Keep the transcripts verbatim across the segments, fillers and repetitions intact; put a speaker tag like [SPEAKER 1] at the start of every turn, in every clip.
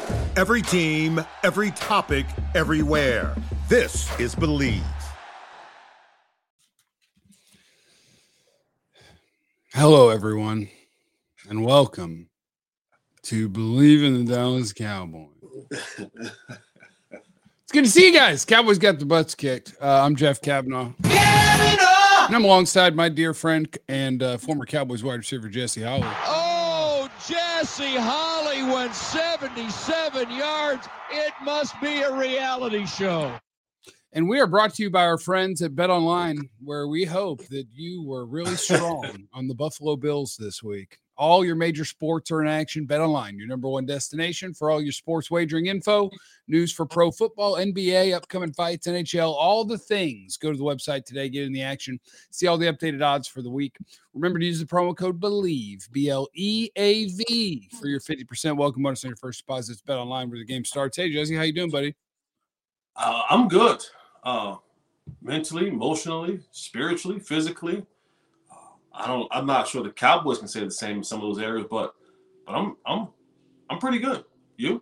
[SPEAKER 1] Every team, every topic, everywhere. This is Believe.
[SPEAKER 2] Hello, everyone, and welcome to Believe in the Dallas Cowboys. It's good to see you guys. Cowboys got the butts kicked. Uh, I'm Jeff Kavanaugh. And I'm alongside my dear friend and uh, former Cowboys wide receiver, Jesse Holly.
[SPEAKER 3] Oh, Jesse Holly went seventy-seven yards. It must be a reality show.
[SPEAKER 2] And we are brought to you by our friends at BetOnline, where we hope that you were really strong on the Buffalo Bills this week. All your major sports are in action. BetOnline, your number one destination for all your sports wagering info, news for pro football, N B A, upcoming fights, N H L, all the things. Go to the website today, get in the action, see all the updated odds for the week. Remember to use the promo code BELIEVE, B L E A V, for your fifty percent welcome bonus on your first deposit. It's BetOnline where the game starts. Hey, Jesse, how you doing, buddy?
[SPEAKER 4] Uh, I'm good. Uh, mentally, emotionally, spiritually, physically. Uh, I don't. I'm not sure the Cowboys can say the same in some of those areas, but but I'm I'm I'm pretty good. You?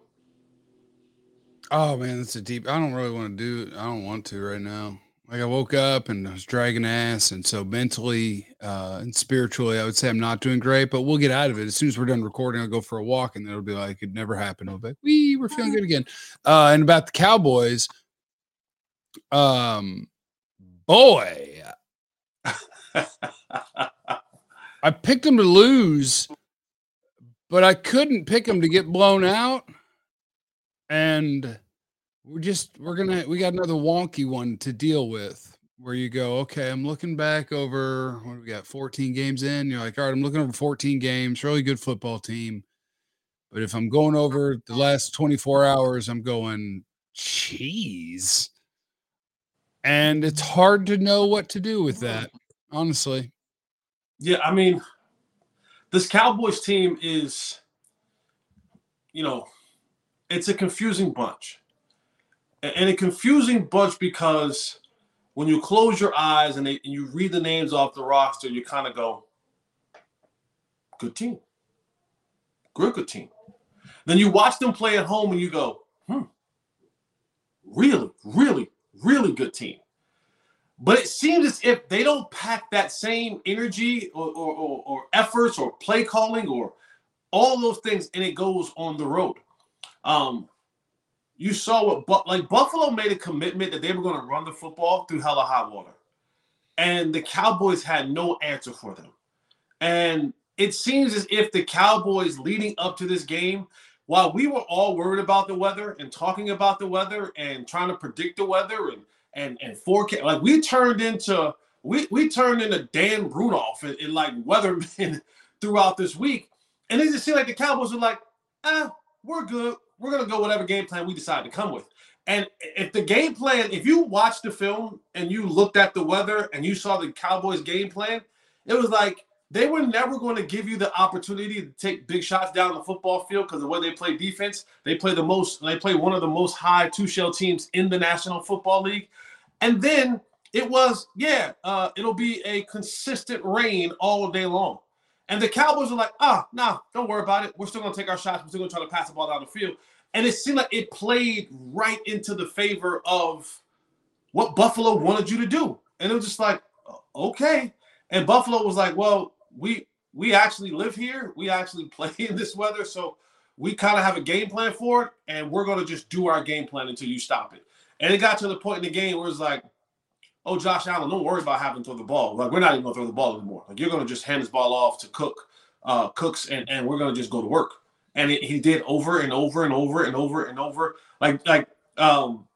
[SPEAKER 2] Oh man, that's a deep. I don't really want to do. I don't want to right now. Like I woke up and I was dragging ass, and so mentally uh, and spiritually, I would say I'm not doing great. But we'll get out of it as soon as we're done recording. I'll go for a walk, and it'll be like it never happened. I'll be like, we we're feeling good again. Uh, and about the Cowboys. Um, boy, I picked them to lose, but I couldn't pick them to get blown out. And we're just, we're going to, we got another wonky one to deal with where you go, okay, I'm looking back over, what do we got, fourteen games in? You're like, all right, I'm looking over fourteen games, really good football team. But if I'm going over the last twenty-four hours, I'm going, geez. And it's hard to know what to do with that, honestly.
[SPEAKER 4] Yeah, I mean, this Cowboys team is, you know, it's a confusing bunch. And a confusing bunch because when you close your eyes and, they, and you read the names off the roster, you kind of go, good team. Good, good team. Then you watch them play at home and you go, hmm, really, really, really good team. But it seems as if they don't pack that same energy or, or, or, or efforts or play calling or all those things, and it goes on the road. Um, you saw what, but like Buffalo made a commitment that they were going to run the football through hell or high water, and the Cowboys had no answer for them. And it seems as if the Cowboys leading up to this game, while we were all worried about the weather and talking about the weather and trying to predict the weather and and and forecast, like we turned into we we turned into Dan Rudolph and, and like weathermen throughout this week, and it just seemed like the Cowboys were like, ah, we're good. We're gonna go whatever game plan we decide to come with. And if the game plan, if you watched the film and you looked at the weather and you saw the Cowboys game plan, it was like they were never going to give you the opportunity to take big shots down the football field because of the way they play defense. They play the most, they play one of the most high two-shell teams in the National Football League. And then it was, yeah, uh, it'll be a consistent rain all day long. And the Cowboys were like, ah, no, nah, don't worry about it. We're still going to take our shots. We're still going to try to pass the ball down the field. And it seemed like it played right into the favor of what Buffalo wanted you to do. And it was just like, okay. And Buffalo was like, well, we we actually live here. We actually play in this weather. So we kind of have a game plan for it. And we're going to just do our game plan until you stop it. And it got to the point in the game where it's like, oh, Josh Allen, don't worry about having to throw the ball. Like, we're not even going to throw the ball anymore. Like, you're going to just hand this ball off to Cook, uh, Cooks, and, and we're going to just go to work. And it, he did over and over and over and over and over. Like, like um,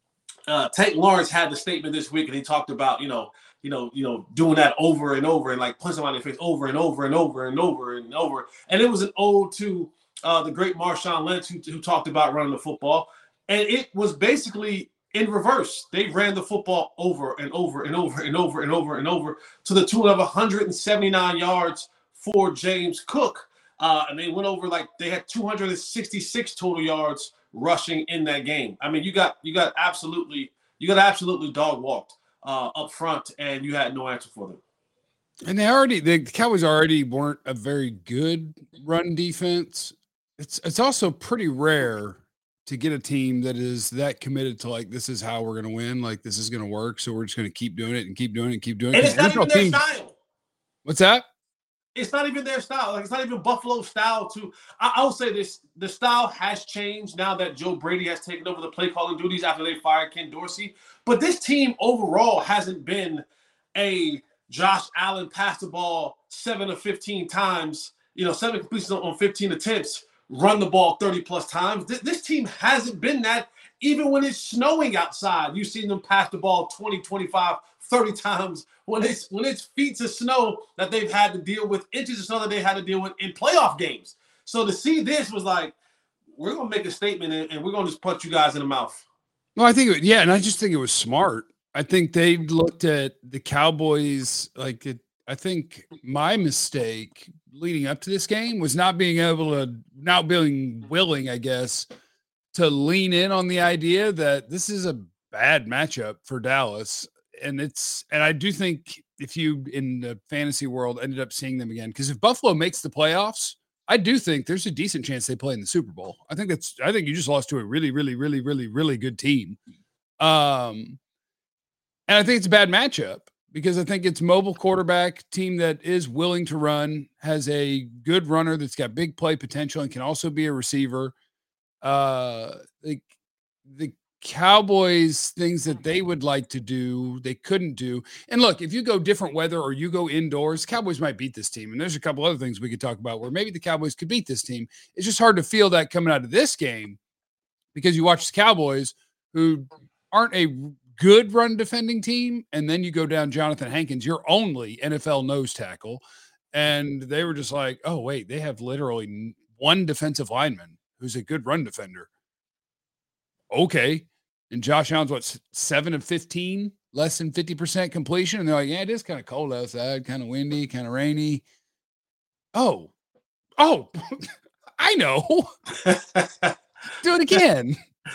[SPEAKER 4] uh, Tank Lawrence had the statement this week, and he talked about, you know, you know, you know, doing that over and over and like punching them on their face over and over and over and over and over. And it was an ode to uh, the great Marshawn Lynch, who, who talked about running the football. And it was basically in reverse. They ran the football over and over and over and over and over and over to the tune of one hundred seventy-nine yards for James Cook. Uh, and they went over like they had two hundred sixty-six total yards rushing in that game. I mean, you got you got absolutely you got absolutely dog walked uh, up front, and you had no answer for them.
[SPEAKER 2] And they already the Cowboys already weren't a very good run defense. It's it's also pretty rare to get a team that is that committed to like, this is how we're going to win. Like, this is going to work. So we're just going to keep doing it and keep doing it and keep doing it.
[SPEAKER 4] And it's not even their
[SPEAKER 2] teams,
[SPEAKER 4] style.
[SPEAKER 2] What's that?
[SPEAKER 4] It's not even their style. Like, it's not even Buffalo style. To I, I'll say this: the style has changed now that Joe Brady has taken over the play calling duties after they fired Ken Dorsey. But this team overall hasn't been a Josh Allen pass the ball seven of fifteen times, you know, seven completions on fifteen attempts, run the ball thirty plus times. This, this team hasn't been that. Even when it's snowing outside, you've seen them pass the ball twenty, twenty-five, thirty times. When it's when it's feet of snow that they've had to deal with, inches of snow that they had to deal with in playoff games. So to see this was like, we're gonna make a statement and, and we're gonna just punch you guys in the mouth.
[SPEAKER 2] No, I think it, yeah, and I just think it was smart. I think they looked at the Cowboys like it. I think my mistake leading up to this game was not being able to, not being willing, I guess, to lean in on the idea that this is a bad matchup for Dallas. And it's, and I do think if you in the fantasy world ended up seeing them again, because if Buffalo makes the playoffs, I do think there's a decent chance they play in the Super Bowl. I think that's, I think you just lost to a really, really, really, really, really good team. Um, and I think it's a bad matchup because I think it's mobile quarterback team that is willing to run, has a good runner that's got big play potential and can also be a receiver. Uh, the, the Cowboys, things that they would like to do, they couldn't do. And look, if you go different weather or you go indoors, Cowboys might beat this team. And there's a couple other things we could talk about where maybe the Cowboys could beat this team. It's just hard to feel that coming out of this game because you watch the Cowboys who aren't a good run defending team. And then you go down Jonathan Hankins, your only N F L nose tackle. And they were just like, oh, wait, they have literally one defensive lineman who's a good run defender. Okay. And Josh Allen's what, seven of fifteen, less than fifty percent completion. And they're like, yeah, it is kind of cold outside, kind of windy, kind of rainy. Oh, oh, I know. Do it again.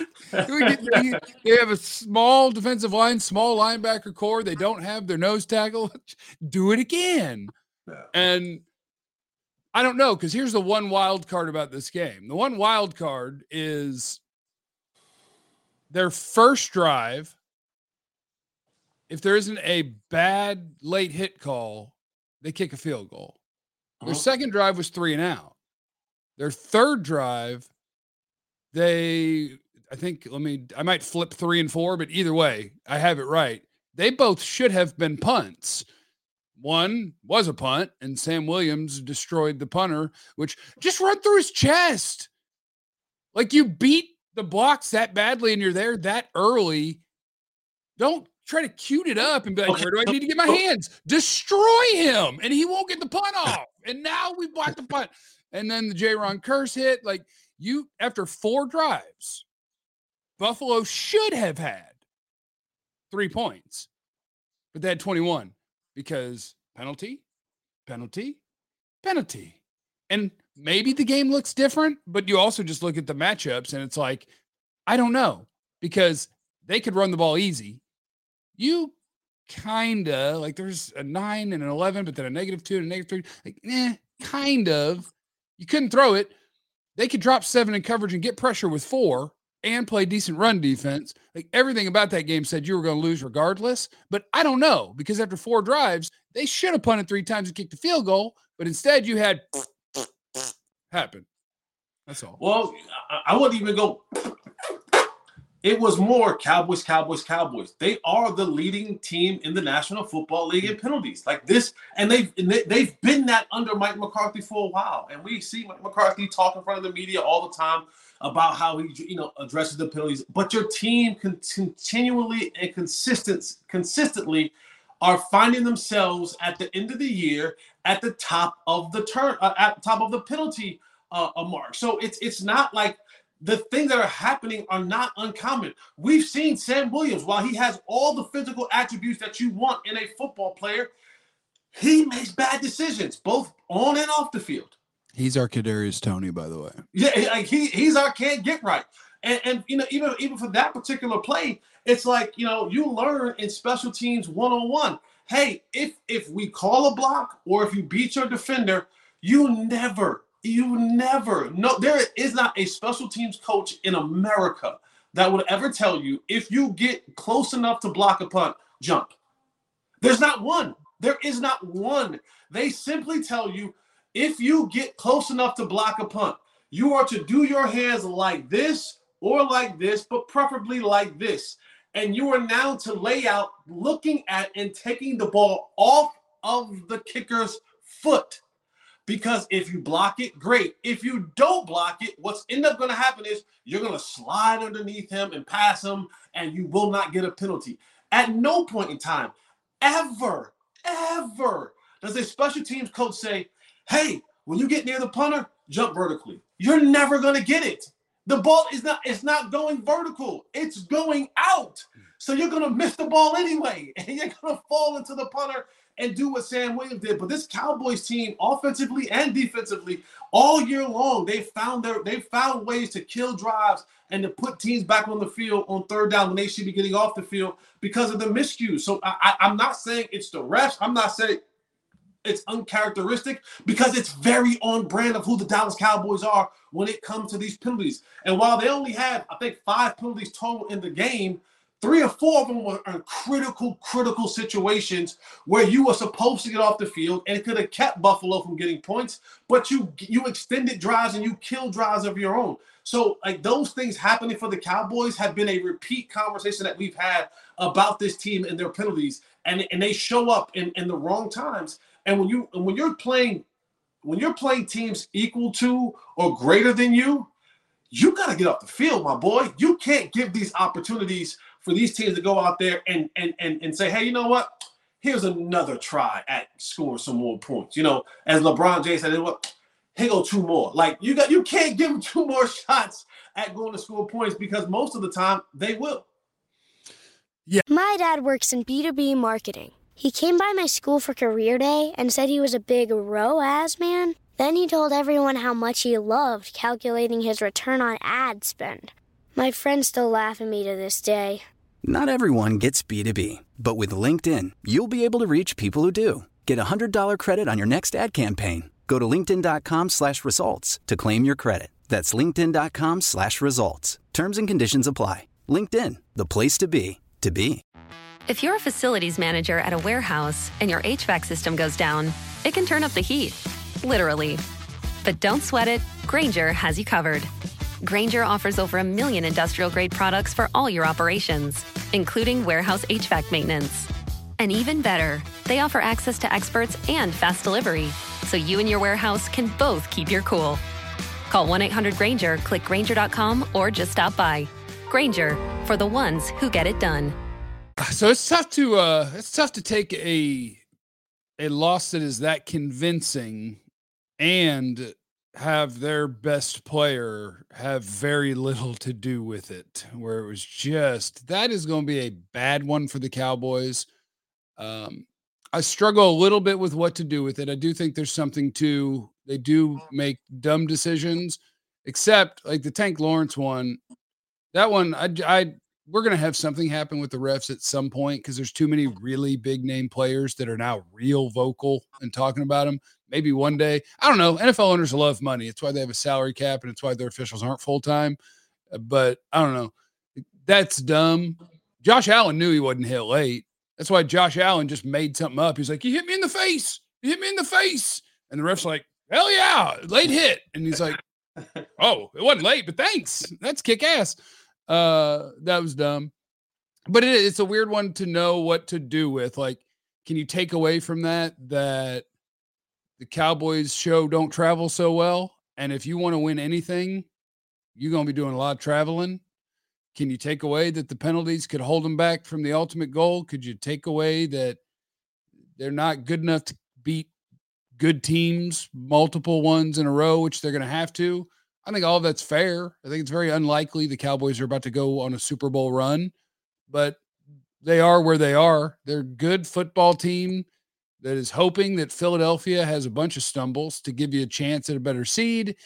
[SPEAKER 2] They have a small defensive line, small linebacker core. They don't have their nose tackle. Do it again. And I don't know, because here's the one wild card about this game. The one wild card is their first drive. If there isn't a bad late hit call, they kick a field goal. Their uh-huh. second drive was three and out. Their third drive, they, I think, let me, I might flip three and four, but either way, I have it right. They both should have been punts. One was a punt, and Sam Williams destroyed the punter, which just run through his chest. Like, you beat the blocks that badly and you're there that early. Don't try to cute it up and be like, okay, where do I need to get my hands? Destroy him, and he won't get the punt off. And now we blocked the punt. And then the J-Ron curse hit. Like, you, after four drives, Buffalo should have had three points, but they had twenty-one because penalty, penalty, penalty. And maybe the game looks different, but you also just look at the matchups and it's like, I don't know, because they could run the ball easy. You kind of, like, there's a nine and an eleven, but then a negative two and a negative three. Like, eh, kind of. You couldn't throw it. They could drop seven in coverage and get pressure with four and play decent run defense. Like, everything about that game said you were going to lose regardless, but I don't know, because after four drives, they should have punted three times and kicked the field goal, but instead you had happen. That's all.
[SPEAKER 4] Well, I wouldn't even go. It was more Cowboys, Cowboys, Cowboys. They are the leading team in the National Football League in penalties like this. And they've, and they, they've been that under Mike McCarthy for a while. And we see Mike McCarthy talk in front of the media all the time about how he, you know, addresses the penalties. But your team can continually and consistent, consistently are finding themselves at the end of the year at the top of the turn, uh, at the top of the penalty uh, mark. So it's it's not like the things that are happening are not uncommon. We've seen Sam Williams, while he has all the physical attributes that you want in a football player, he makes bad decisions, both on and off the field.
[SPEAKER 2] He's our Kadarius Toney, by the way.
[SPEAKER 4] Yeah, like he he's our can't get right. And, and you know, even, even for that particular play, it's like, you know, you learn in special teams one-on-one. Hey, if if we call a block or if you beat your defender, you never, You never, no, there is not a special teams coach in America that would ever tell you if you get close enough to block a punt, jump. There's not one. There is not one. They simply tell you if you get close enough to block a punt, you are to do your hands like this or like this, but preferably like this. And you are now to lay out looking at and taking the ball off of the kicker's foot. Because if you block it, great. If you don't block it, what's end up going to happen is you're going to slide underneath him and pass him, and you will not get a penalty. At no point in time, ever, ever, does a special teams coach say, hey, when you get near the punter, jump vertically. You're never going to get it. The ball is not, it's not going vertical. It's going out. So you're going to miss the ball anyway, and you're going to fall into the punter and do what Sam Williams did. But this Cowboys team, offensively and defensively, all year long, they found their they found ways to kill drives and to put teams back on the field on third down when they should be getting off the field because of the miscues. So I, I, I'm not saying it's the refs. I'm not saying it's uncharacteristic because it's very on brand of who the Dallas Cowboys are when it comes to these penalties. And while they only had, I think, five penalties total in the game, three or four of them were in critical, critical situations where you were supposed to get off the field and it could have kept Buffalo from getting points, but you you extended drives and you killed drives of your own. So, like, those things happening for the Cowboys have been a repeat conversation that we've had about this team and their penalties, and, and they show up in, in the wrong times. And when you when you're playing when you're playing teams equal to or greater than you, you got to get off the field, my boy. You can't give these opportunities for these teams to go out there and and and and say, hey, you know what? Here's another try at scoring some more points. You know, as LeBron James said, what? Here go two more. Like you got, you can't give them two more shots at going to score points because most of the time they will.
[SPEAKER 5] Yeah. My dad works in B two B marketing. He came by my school for career day and said he was a big R O A S man. Then he told everyone how much he loved calculating his return on ad spend. My friends still laugh at me to this day.
[SPEAKER 6] Not everyone gets B two B, but with LinkedIn, you'll be able to reach people who do. Get a one hundred dollars credit on your next ad campaign. Go to linkedin.com slash results to claim your credit. That's linkedin.com slash results. Terms and conditions apply. LinkedIn, the place to be, to be.
[SPEAKER 7] If you're a facilities manager at a warehouse and your H V A C system goes down, it can turn up the heat, literally. But don't sweat it, Grainger has you covered. Grainger offers over a million industrial-grade products for all your operations, including warehouse H V A C maintenance. And even better, they offer access to experts and fast delivery, so you and your warehouse can both keep your cool. Call one eight hundred Grainger, click Grainger dot com, or just stop by. Grainger, for the ones who get it done.
[SPEAKER 2] So it's tough to uh, it's tough to take a a loss that is that convincing and have their best player have very little to do with it, where it was just, that is going to be a bad one for the Cowboys. Um, I struggle a little bit with what to do with it. I do think there's something to, they do make dumb decisions, except like the Tank Lawrence one, that one, I, I, we're going to have something happen with the refs at some point because there's too many really big name players that are now real vocal and talking about them. Maybe one day, I don't know. N F L owners love money. It's why they have a salary cap and it's why their officials aren't full-time. But I don't know. That's dumb. Josh Allen knew he wasn't hit late. That's why Josh Allen just made something up. He's like, you hit me in the face. You hit me in the face. And the ref's like, hell yeah, late hit. And he's like, oh, it wasn't late, but thanks. That's kick ass. Uh, that was dumb. But it, it's a weird one to know what to do with. Like, can you take away from that that the Cowboys show don't travel so well? And if you want to win anything, you're going to be doing a lot of traveling. Can you take away that the penalties could hold them back from the ultimate goal? Could you take away that they're not good enough to beat good teams, multiple ones in a row, which they're going to have to? I think all of that's fair. I think it's very unlikely the Cowboys are about to go on a Super Bowl run, but they are where they are. They're a good football team that is hoping that Philadelphia has a bunch of stumbles to give you a chance at a better seed.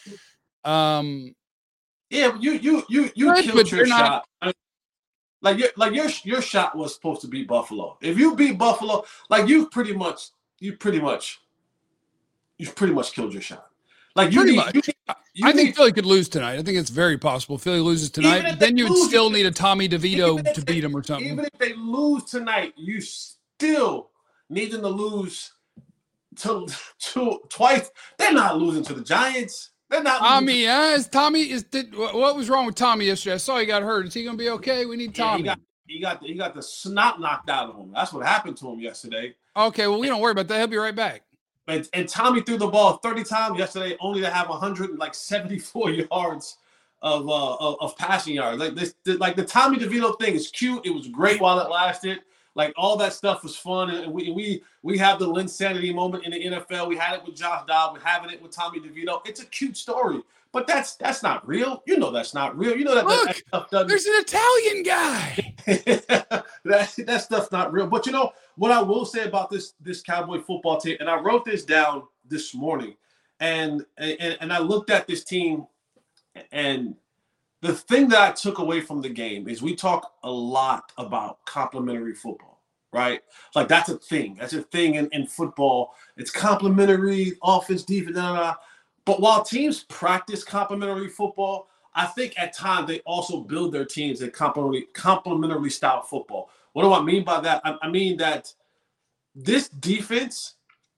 [SPEAKER 2] Um,
[SPEAKER 4] Yeah, you you you you
[SPEAKER 2] Good,
[SPEAKER 4] killed
[SPEAKER 2] but
[SPEAKER 4] your
[SPEAKER 2] they're not-
[SPEAKER 4] shot. Like your like your your shot was supposed to beat Buffalo. If you beat Buffalo, like you pretty much you pretty much you pretty much killed your shot. Like you
[SPEAKER 2] Pretty
[SPEAKER 4] need,
[SPEAKER 2] much.
[SPEAKER 4] you need, you
[SPEAKER 2] I think
[SPEAKER 4] need,
[SPEAKER 2] Philly could lose tonight. I think it's very possible Philly loses tonight. Then you would
[SPEAKER 4] lose,
[SPEAKER 2] still need a Tommy DeVito to
[SPEAKER 4] they,
[SPEAKER 2] beat him or something.
[SPEAKER 4] Even if they lose tonight, you still need them to lose to, to twice. They're not losing to the Giants. They're not.
[SPEAKER 2] Tommy, uh, is Tommy is did, what was wrong with Tommy yesterday? I saw he got hurt. Is he going to be okay? We need Tommy.
[SPEAKER 4] Yeah, he, got, he got he got the snot knocked out of him. That's what happened to him yesterday.
[SPEAKER 2] Okay, well we don't worry about that. He'll be right back.
[SPEAKER 4] And, and Tommy threw the ball thirty times yesterday, only to have one hundred seventy-four yards of uh, of, of passing yards. Like this, like the Tommy DeVito thing is cute. It was great while it lasted. Like all that stuff was fun, and we we we have the Linsanity moment in the N F L. We had it with Josh Dobbs. We're having it with Tommy DeVito. It's a cute story, but that's that's not real. You know that's not real. You know that,
[SPEAKER 2] Look,
[SPEAKER 4] that, that stuff doesn't.
[SPEAKER 2] There's an Italian guy.
[SPEAKER 4] that that stuff's not real. But you know what I will say about this this Cowboy football team, and I wrote this down this morning, and and and I looked at this team, and the thing that I took away from the game is we talk a lot about complementary football, right? Like that's a thing. That's a thing in, in football. It's complementary, offense, defense, blah, blah, blah. But while teams practice complementary football, I think at times they also build their teams in complementary, complementary style football. What do I mean by that? I, I mean that this defense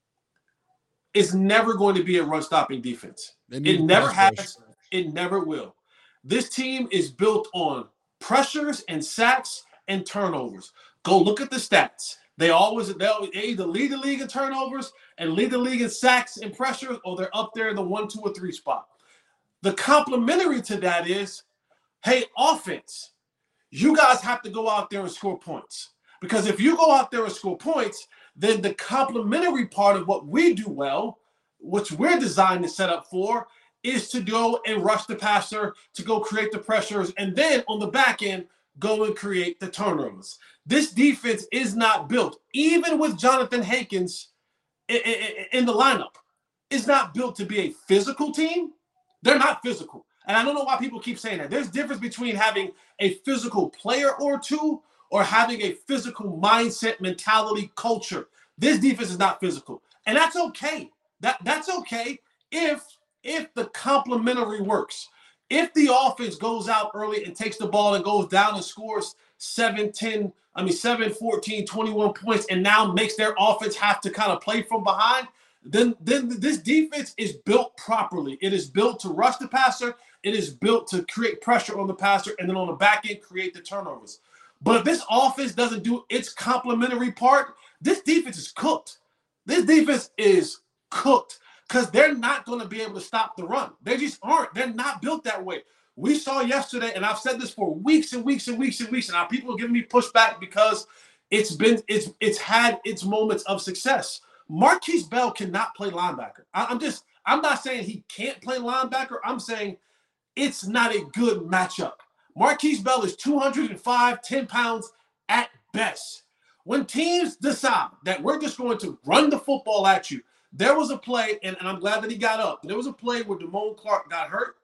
[SPEAKER 4] is never going to be a run-stopping defense. It never has. It never will. This team is built on pressures and sacks and turnovers. Go look at the stats. They always they either lead the league in turnovers and lead the league in sacks and pressures, or they're up there in the one, two, or three spot. The complementary to that is, hey, offense, you guys have to go out there and score points. Because if you go out there and score points, then the complementary part of what we do well, which we're designed to set up for, is to go and rush the passer, to go create the pressures, and then on the back end, go and create the turnovers. This defense is not built, even with Jonathan Hankins in the lineup, is not built to be a physical team. They're not physical. And I don't know why people keep saying that. There's a difference between having a physical player or two or having a physical mindset, mentality, culture. This defense is not physical. And that's okay. That, that's okay if If the complementary works, if the offense goes out early and takes the ball and goes down and scores seven, ten, I mean, seven, fourteen, twenty-one points and now makes their offense have to kind of play from behind, then, then this defense is built properly. It is built to rush the passer. It is built to create pressure on the passer and then on the back end create the turnovers. But if this offense doesn't do its complementary part, this defense is cooked. This defense is cooked. Because they're not going to be able to stop the run. They just aren't. They're not built that way. We saw yesterday, and I've said this for weeks and weeks and weeks and weeks, and now people are giving me pushback because it's been it's it's had its moments of success. Marquise Bell cannot play linebacker. I, I'm just I'm not saying he can't play linebacker. I'm saying it's not a good matchup. Marquise Bell is two hundred five, ten pounds at best. When teams decide that we're just going to run the football at you, there was a play, and, and I'm glad that he got up. There was a play where Damone Clark got hurt.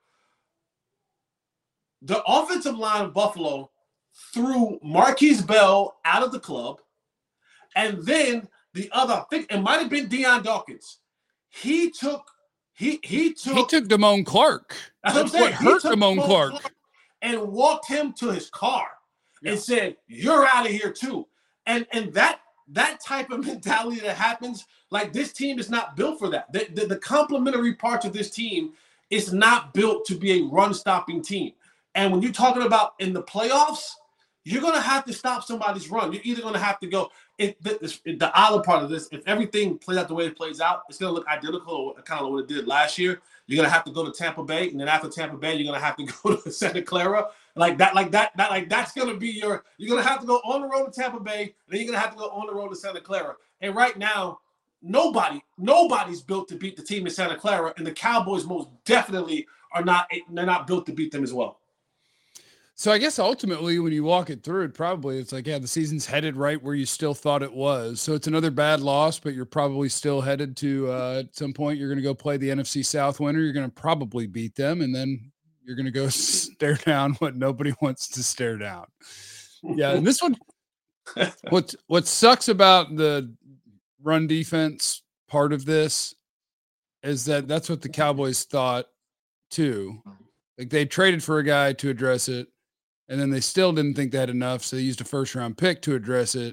[SPEAKER 4] The offensive line of Buffalo threw Marquise Bell out of the club, and then the other, I think it might have been Deion Dawkins. He took he he took
[SPEAKER 2] he took Damone Clark.
[SPEAKER 4] That's,
[SPEAKER 2] that's
[SPEAKER 4] what,
[SPEAKER 2] what hurt
[SPEAKER 4] Damone
[SPEAKER 2] Damone Clark.
[SPEAKER 4] Clark and walked him to his car
[SPEAKER 2] yeah.
[SPEAKER 4] and said, "You're out of here too." And and that that type of mentality that happens. Like, this team is not built for that. The, the, the complementary parts of this team is not built to be a run-stopping team. And when you're talking about in the playoffs, you're going to have to stop somebody's run. You're either going to have to go it, – the, the other part of this, if everything plays out the way it plays out, it's going to look identical to kind of what it did last year. You're going to have to go to Tampa Bay, and then after Tampa Bay, you're going to have to go to Santa Clara. Like that, like that, that, like that's going to be your – you're going to have to go on the road to Tampa Bay, and then you're going to have to go on the road to Santa Clara. And right now – Nobody, nobody's built to beat the team in Santa Clara, and the Cowboys most definitely are not. They're not built to beat them as well.
[SPEAKER 2] So I guess ultimately, when you walk it through, it probably it's like, yeah, the season's headed right where you still thought it was. So it's another bad loss, but you're probably still headed to uh, at some point. You're going to go play the N F C South winner. You're going to probably beat them, and then you're going to go stare down what nobody wants to stare down. Yeah, and this one, what what sucks about the run defense part of this is that that's what the Cowboys thought too. Like they traded for a guy to address it, and then they still didn't think they had enough, so they used a first round pick to address it.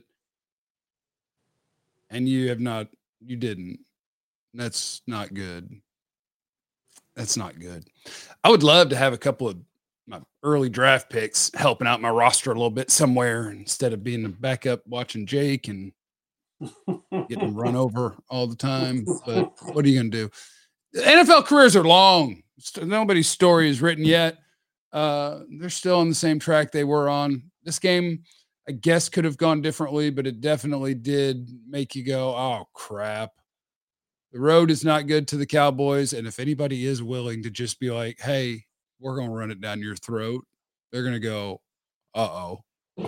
[SPEAKER 2] And you have not, you didn't. That's not good. That's not good. I would love to have a couple of my early draft picks helping out my roster a little bit somewhere instead of being a backup watching Jake and getting run over all the time. But what are you going to do? The N F L careers are long. Nobody's story is written yet. Uh, they're still on the same track they were on. This game, I guess, could have gone differently, but it definitely did make you go, oh, crap. The road is not good to the Cowboys. And if anybody is willing to just be like, hey, we're going to run it down your throat, they're going to go, uh-oh.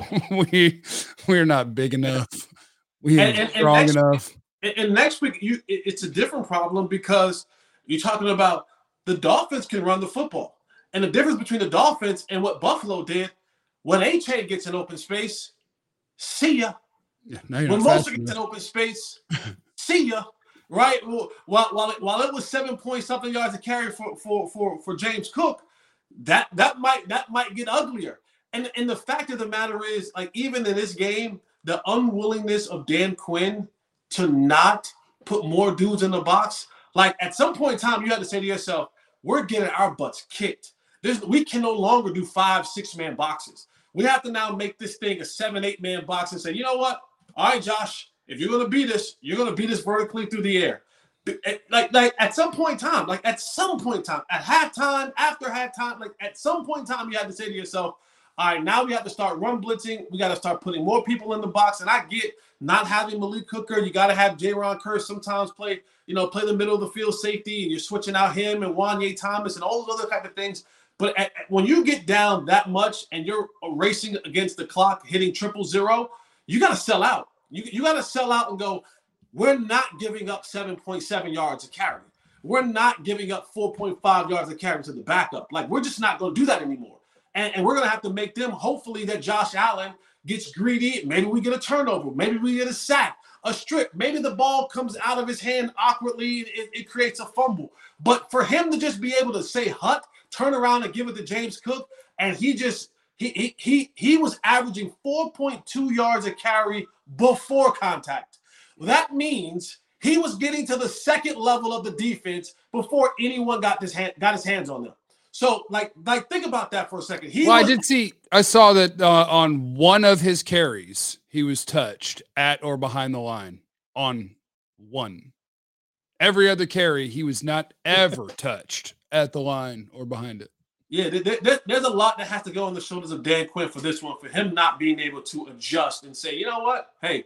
[SPEAKER 2] we, we're not big enough. We ain't and, and, strong and next, enough.
[SPEAKER 4] And, and next week, you it, it's a different problem because you're talking about the Dolphins can run the football. And the difference between the Dolphins and what Buffalo did, when H-A gets an open space, see ya.
[SPEAKER 2] Yeah,
[SPEAKER 4] when Mostert gets an open space, see ya. Right? Well, while, while, it, while it was seven point something yards to carry for, for, for, for James Cook, that that might that might get uglier. And, and the fact of the matter is, like, even in this game, the unwillingness of Dan Quinn to not put more dudes in the box, like at some point in time, you had to say to yourself, we're getting our butts kicked. There's, we can no longer do five, six-man boxes. We have to now make this thing a seven, eight-man box and say, you know what? All right, Josh, if you're going to beat us, you're going to beat us vertically through the air. Like, like at some point in time, like at some point in time, at halftime, after halftime, like at some point in time, you have to say to yourself, all right, now we have to start run blitzing. We got to start putting more people in the box. And I get not having Malik Hooker. You got to have Jaron Kearse sometimes play, you know, play the middle of the field safety, and you're switching out him and Wanye Thomas and all those other type of things. But at, at, when you get down that much and you're racing against the clock, hitting triple zero, you got to sell out. You, you got to sell out and go, we're not giving up seven point seven yards a carry. We're not giving up four point five yards a carry to the backup. Like, we're just not going to do that anymore. And, and we're going to have to make them, hopefully, that Josh Allen gets greedy. Maybe we get a turnover. Maybe we get a sack, a strip. Maybe the ball comes out of his hand awkwardly. It, it creates a fumble. But for him to just be able to say hut, turn around and give it to James Cook, and he just he he he, he was averaging four point two yards a carry before contact. That means he was getting to the second level of the defense before anyone got his hand got his hands on them. So, like, like think about that for a second. He
[SPEAKER 2] well,
[SPEAKER 4] was,
[SPEAKER 2] I did see, I saw that uh, on one of his carries, he was touched at or behind the line on one. Every other carry, he was not ever touched at the line or behind it.
[SPEAKER 4] Yeah, there, there, there's a lot that has to go on the shoulders of Dan Quinn for this one, for him not being able to adjust and say, you know what, hey,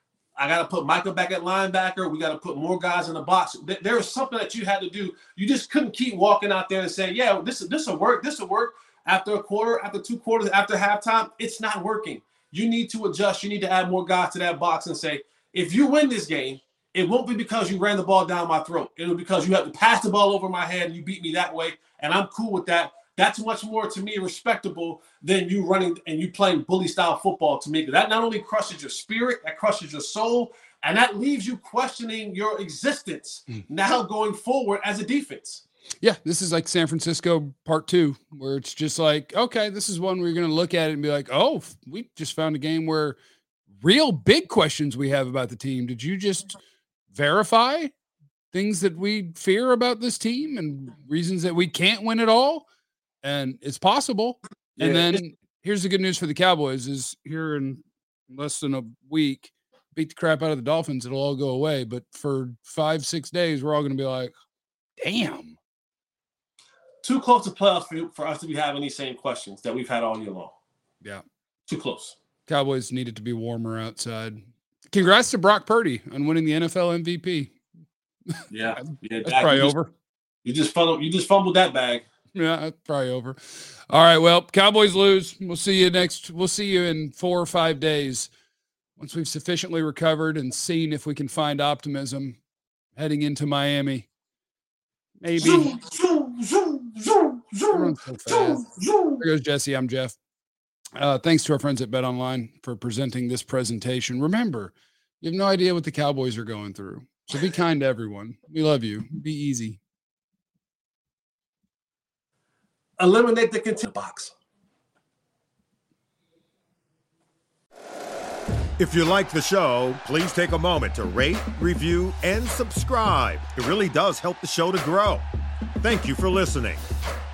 [SPEAKER 4] I got to put Michael back at linebacker. We got to put more guys in the box. There was something that you had to do. You just couldn't keep walking out there and saying, yeah, this this will work. This will work after a quarter, after two quarters, after halftime. It's not working. You need to adjust. You need to add more guys to that box and say, if you win this game, it won't be because you ran the ball down my throat. It'll be because you have to pass the ball over my head and you beat me that way, and I'm cool with that. That's much more, to me, respectable than you running and you playing bully-style football to me. That not only crushes your spirit, that crushes your soul, and that leaves you questioning your existence mm. now going forward as a defense.
[SPEAKER 2] Yeah, this is like San Francisco part two, where it's just like, okay, this is one where you're going to look at it and be like, oh, we just found a game where real big questions we have about the team. Did you just verify things that we fear about this team and reasons that we can't win at all? And it's possible. And yeah. then here's the good news for the Cowboys is here in less than a week, beat the crap out of the Dolphins. It'll all go away. But for five, six days, we're all going to be like, damn.
[SPEAKER 4] Too close to playoffs for, for us to be having these same questions that we've had all year long.
[SPEAKER 2] Yeah.
[SPEAKER 4] Too close.
[SPEAKER 2] Cowboys needed to be warmer outside. Congrats to Brock Purdy on winning the N F L M V P.
[SPEAKER 4] Yeah. yeah
[SPEAKER 2] That's probably
[SPEAKER 4] you just,
[SPEAKER 2] over.
[SPEAKER 4] You just fumbled, you just fumbled that bag.
[SPEAKER 2] Yeah, that's probably over. All right, well, Cowboys lose. We'll see you next. We'll see you in four or five days once we've sufficiently recovered and seen if we can find optimism heading into Miami. Maybe. Zoom, zoom, zoom, zoom, zoom, so zoom, zoom. There goes Jesse. I'm Jeff. Uh, thanks to our friends at BetOnline for presenting this presentation. Remember, you have no idea what the Cowboys are going through. So be kind to everyone. We love you. Be easy.
[SPEAKER 4] Eliminate the content box.
[SPEAKER 1] If you like the show, please take a moment to rate, review, and subscribe. It really does help the show to grow. Thank you for listening.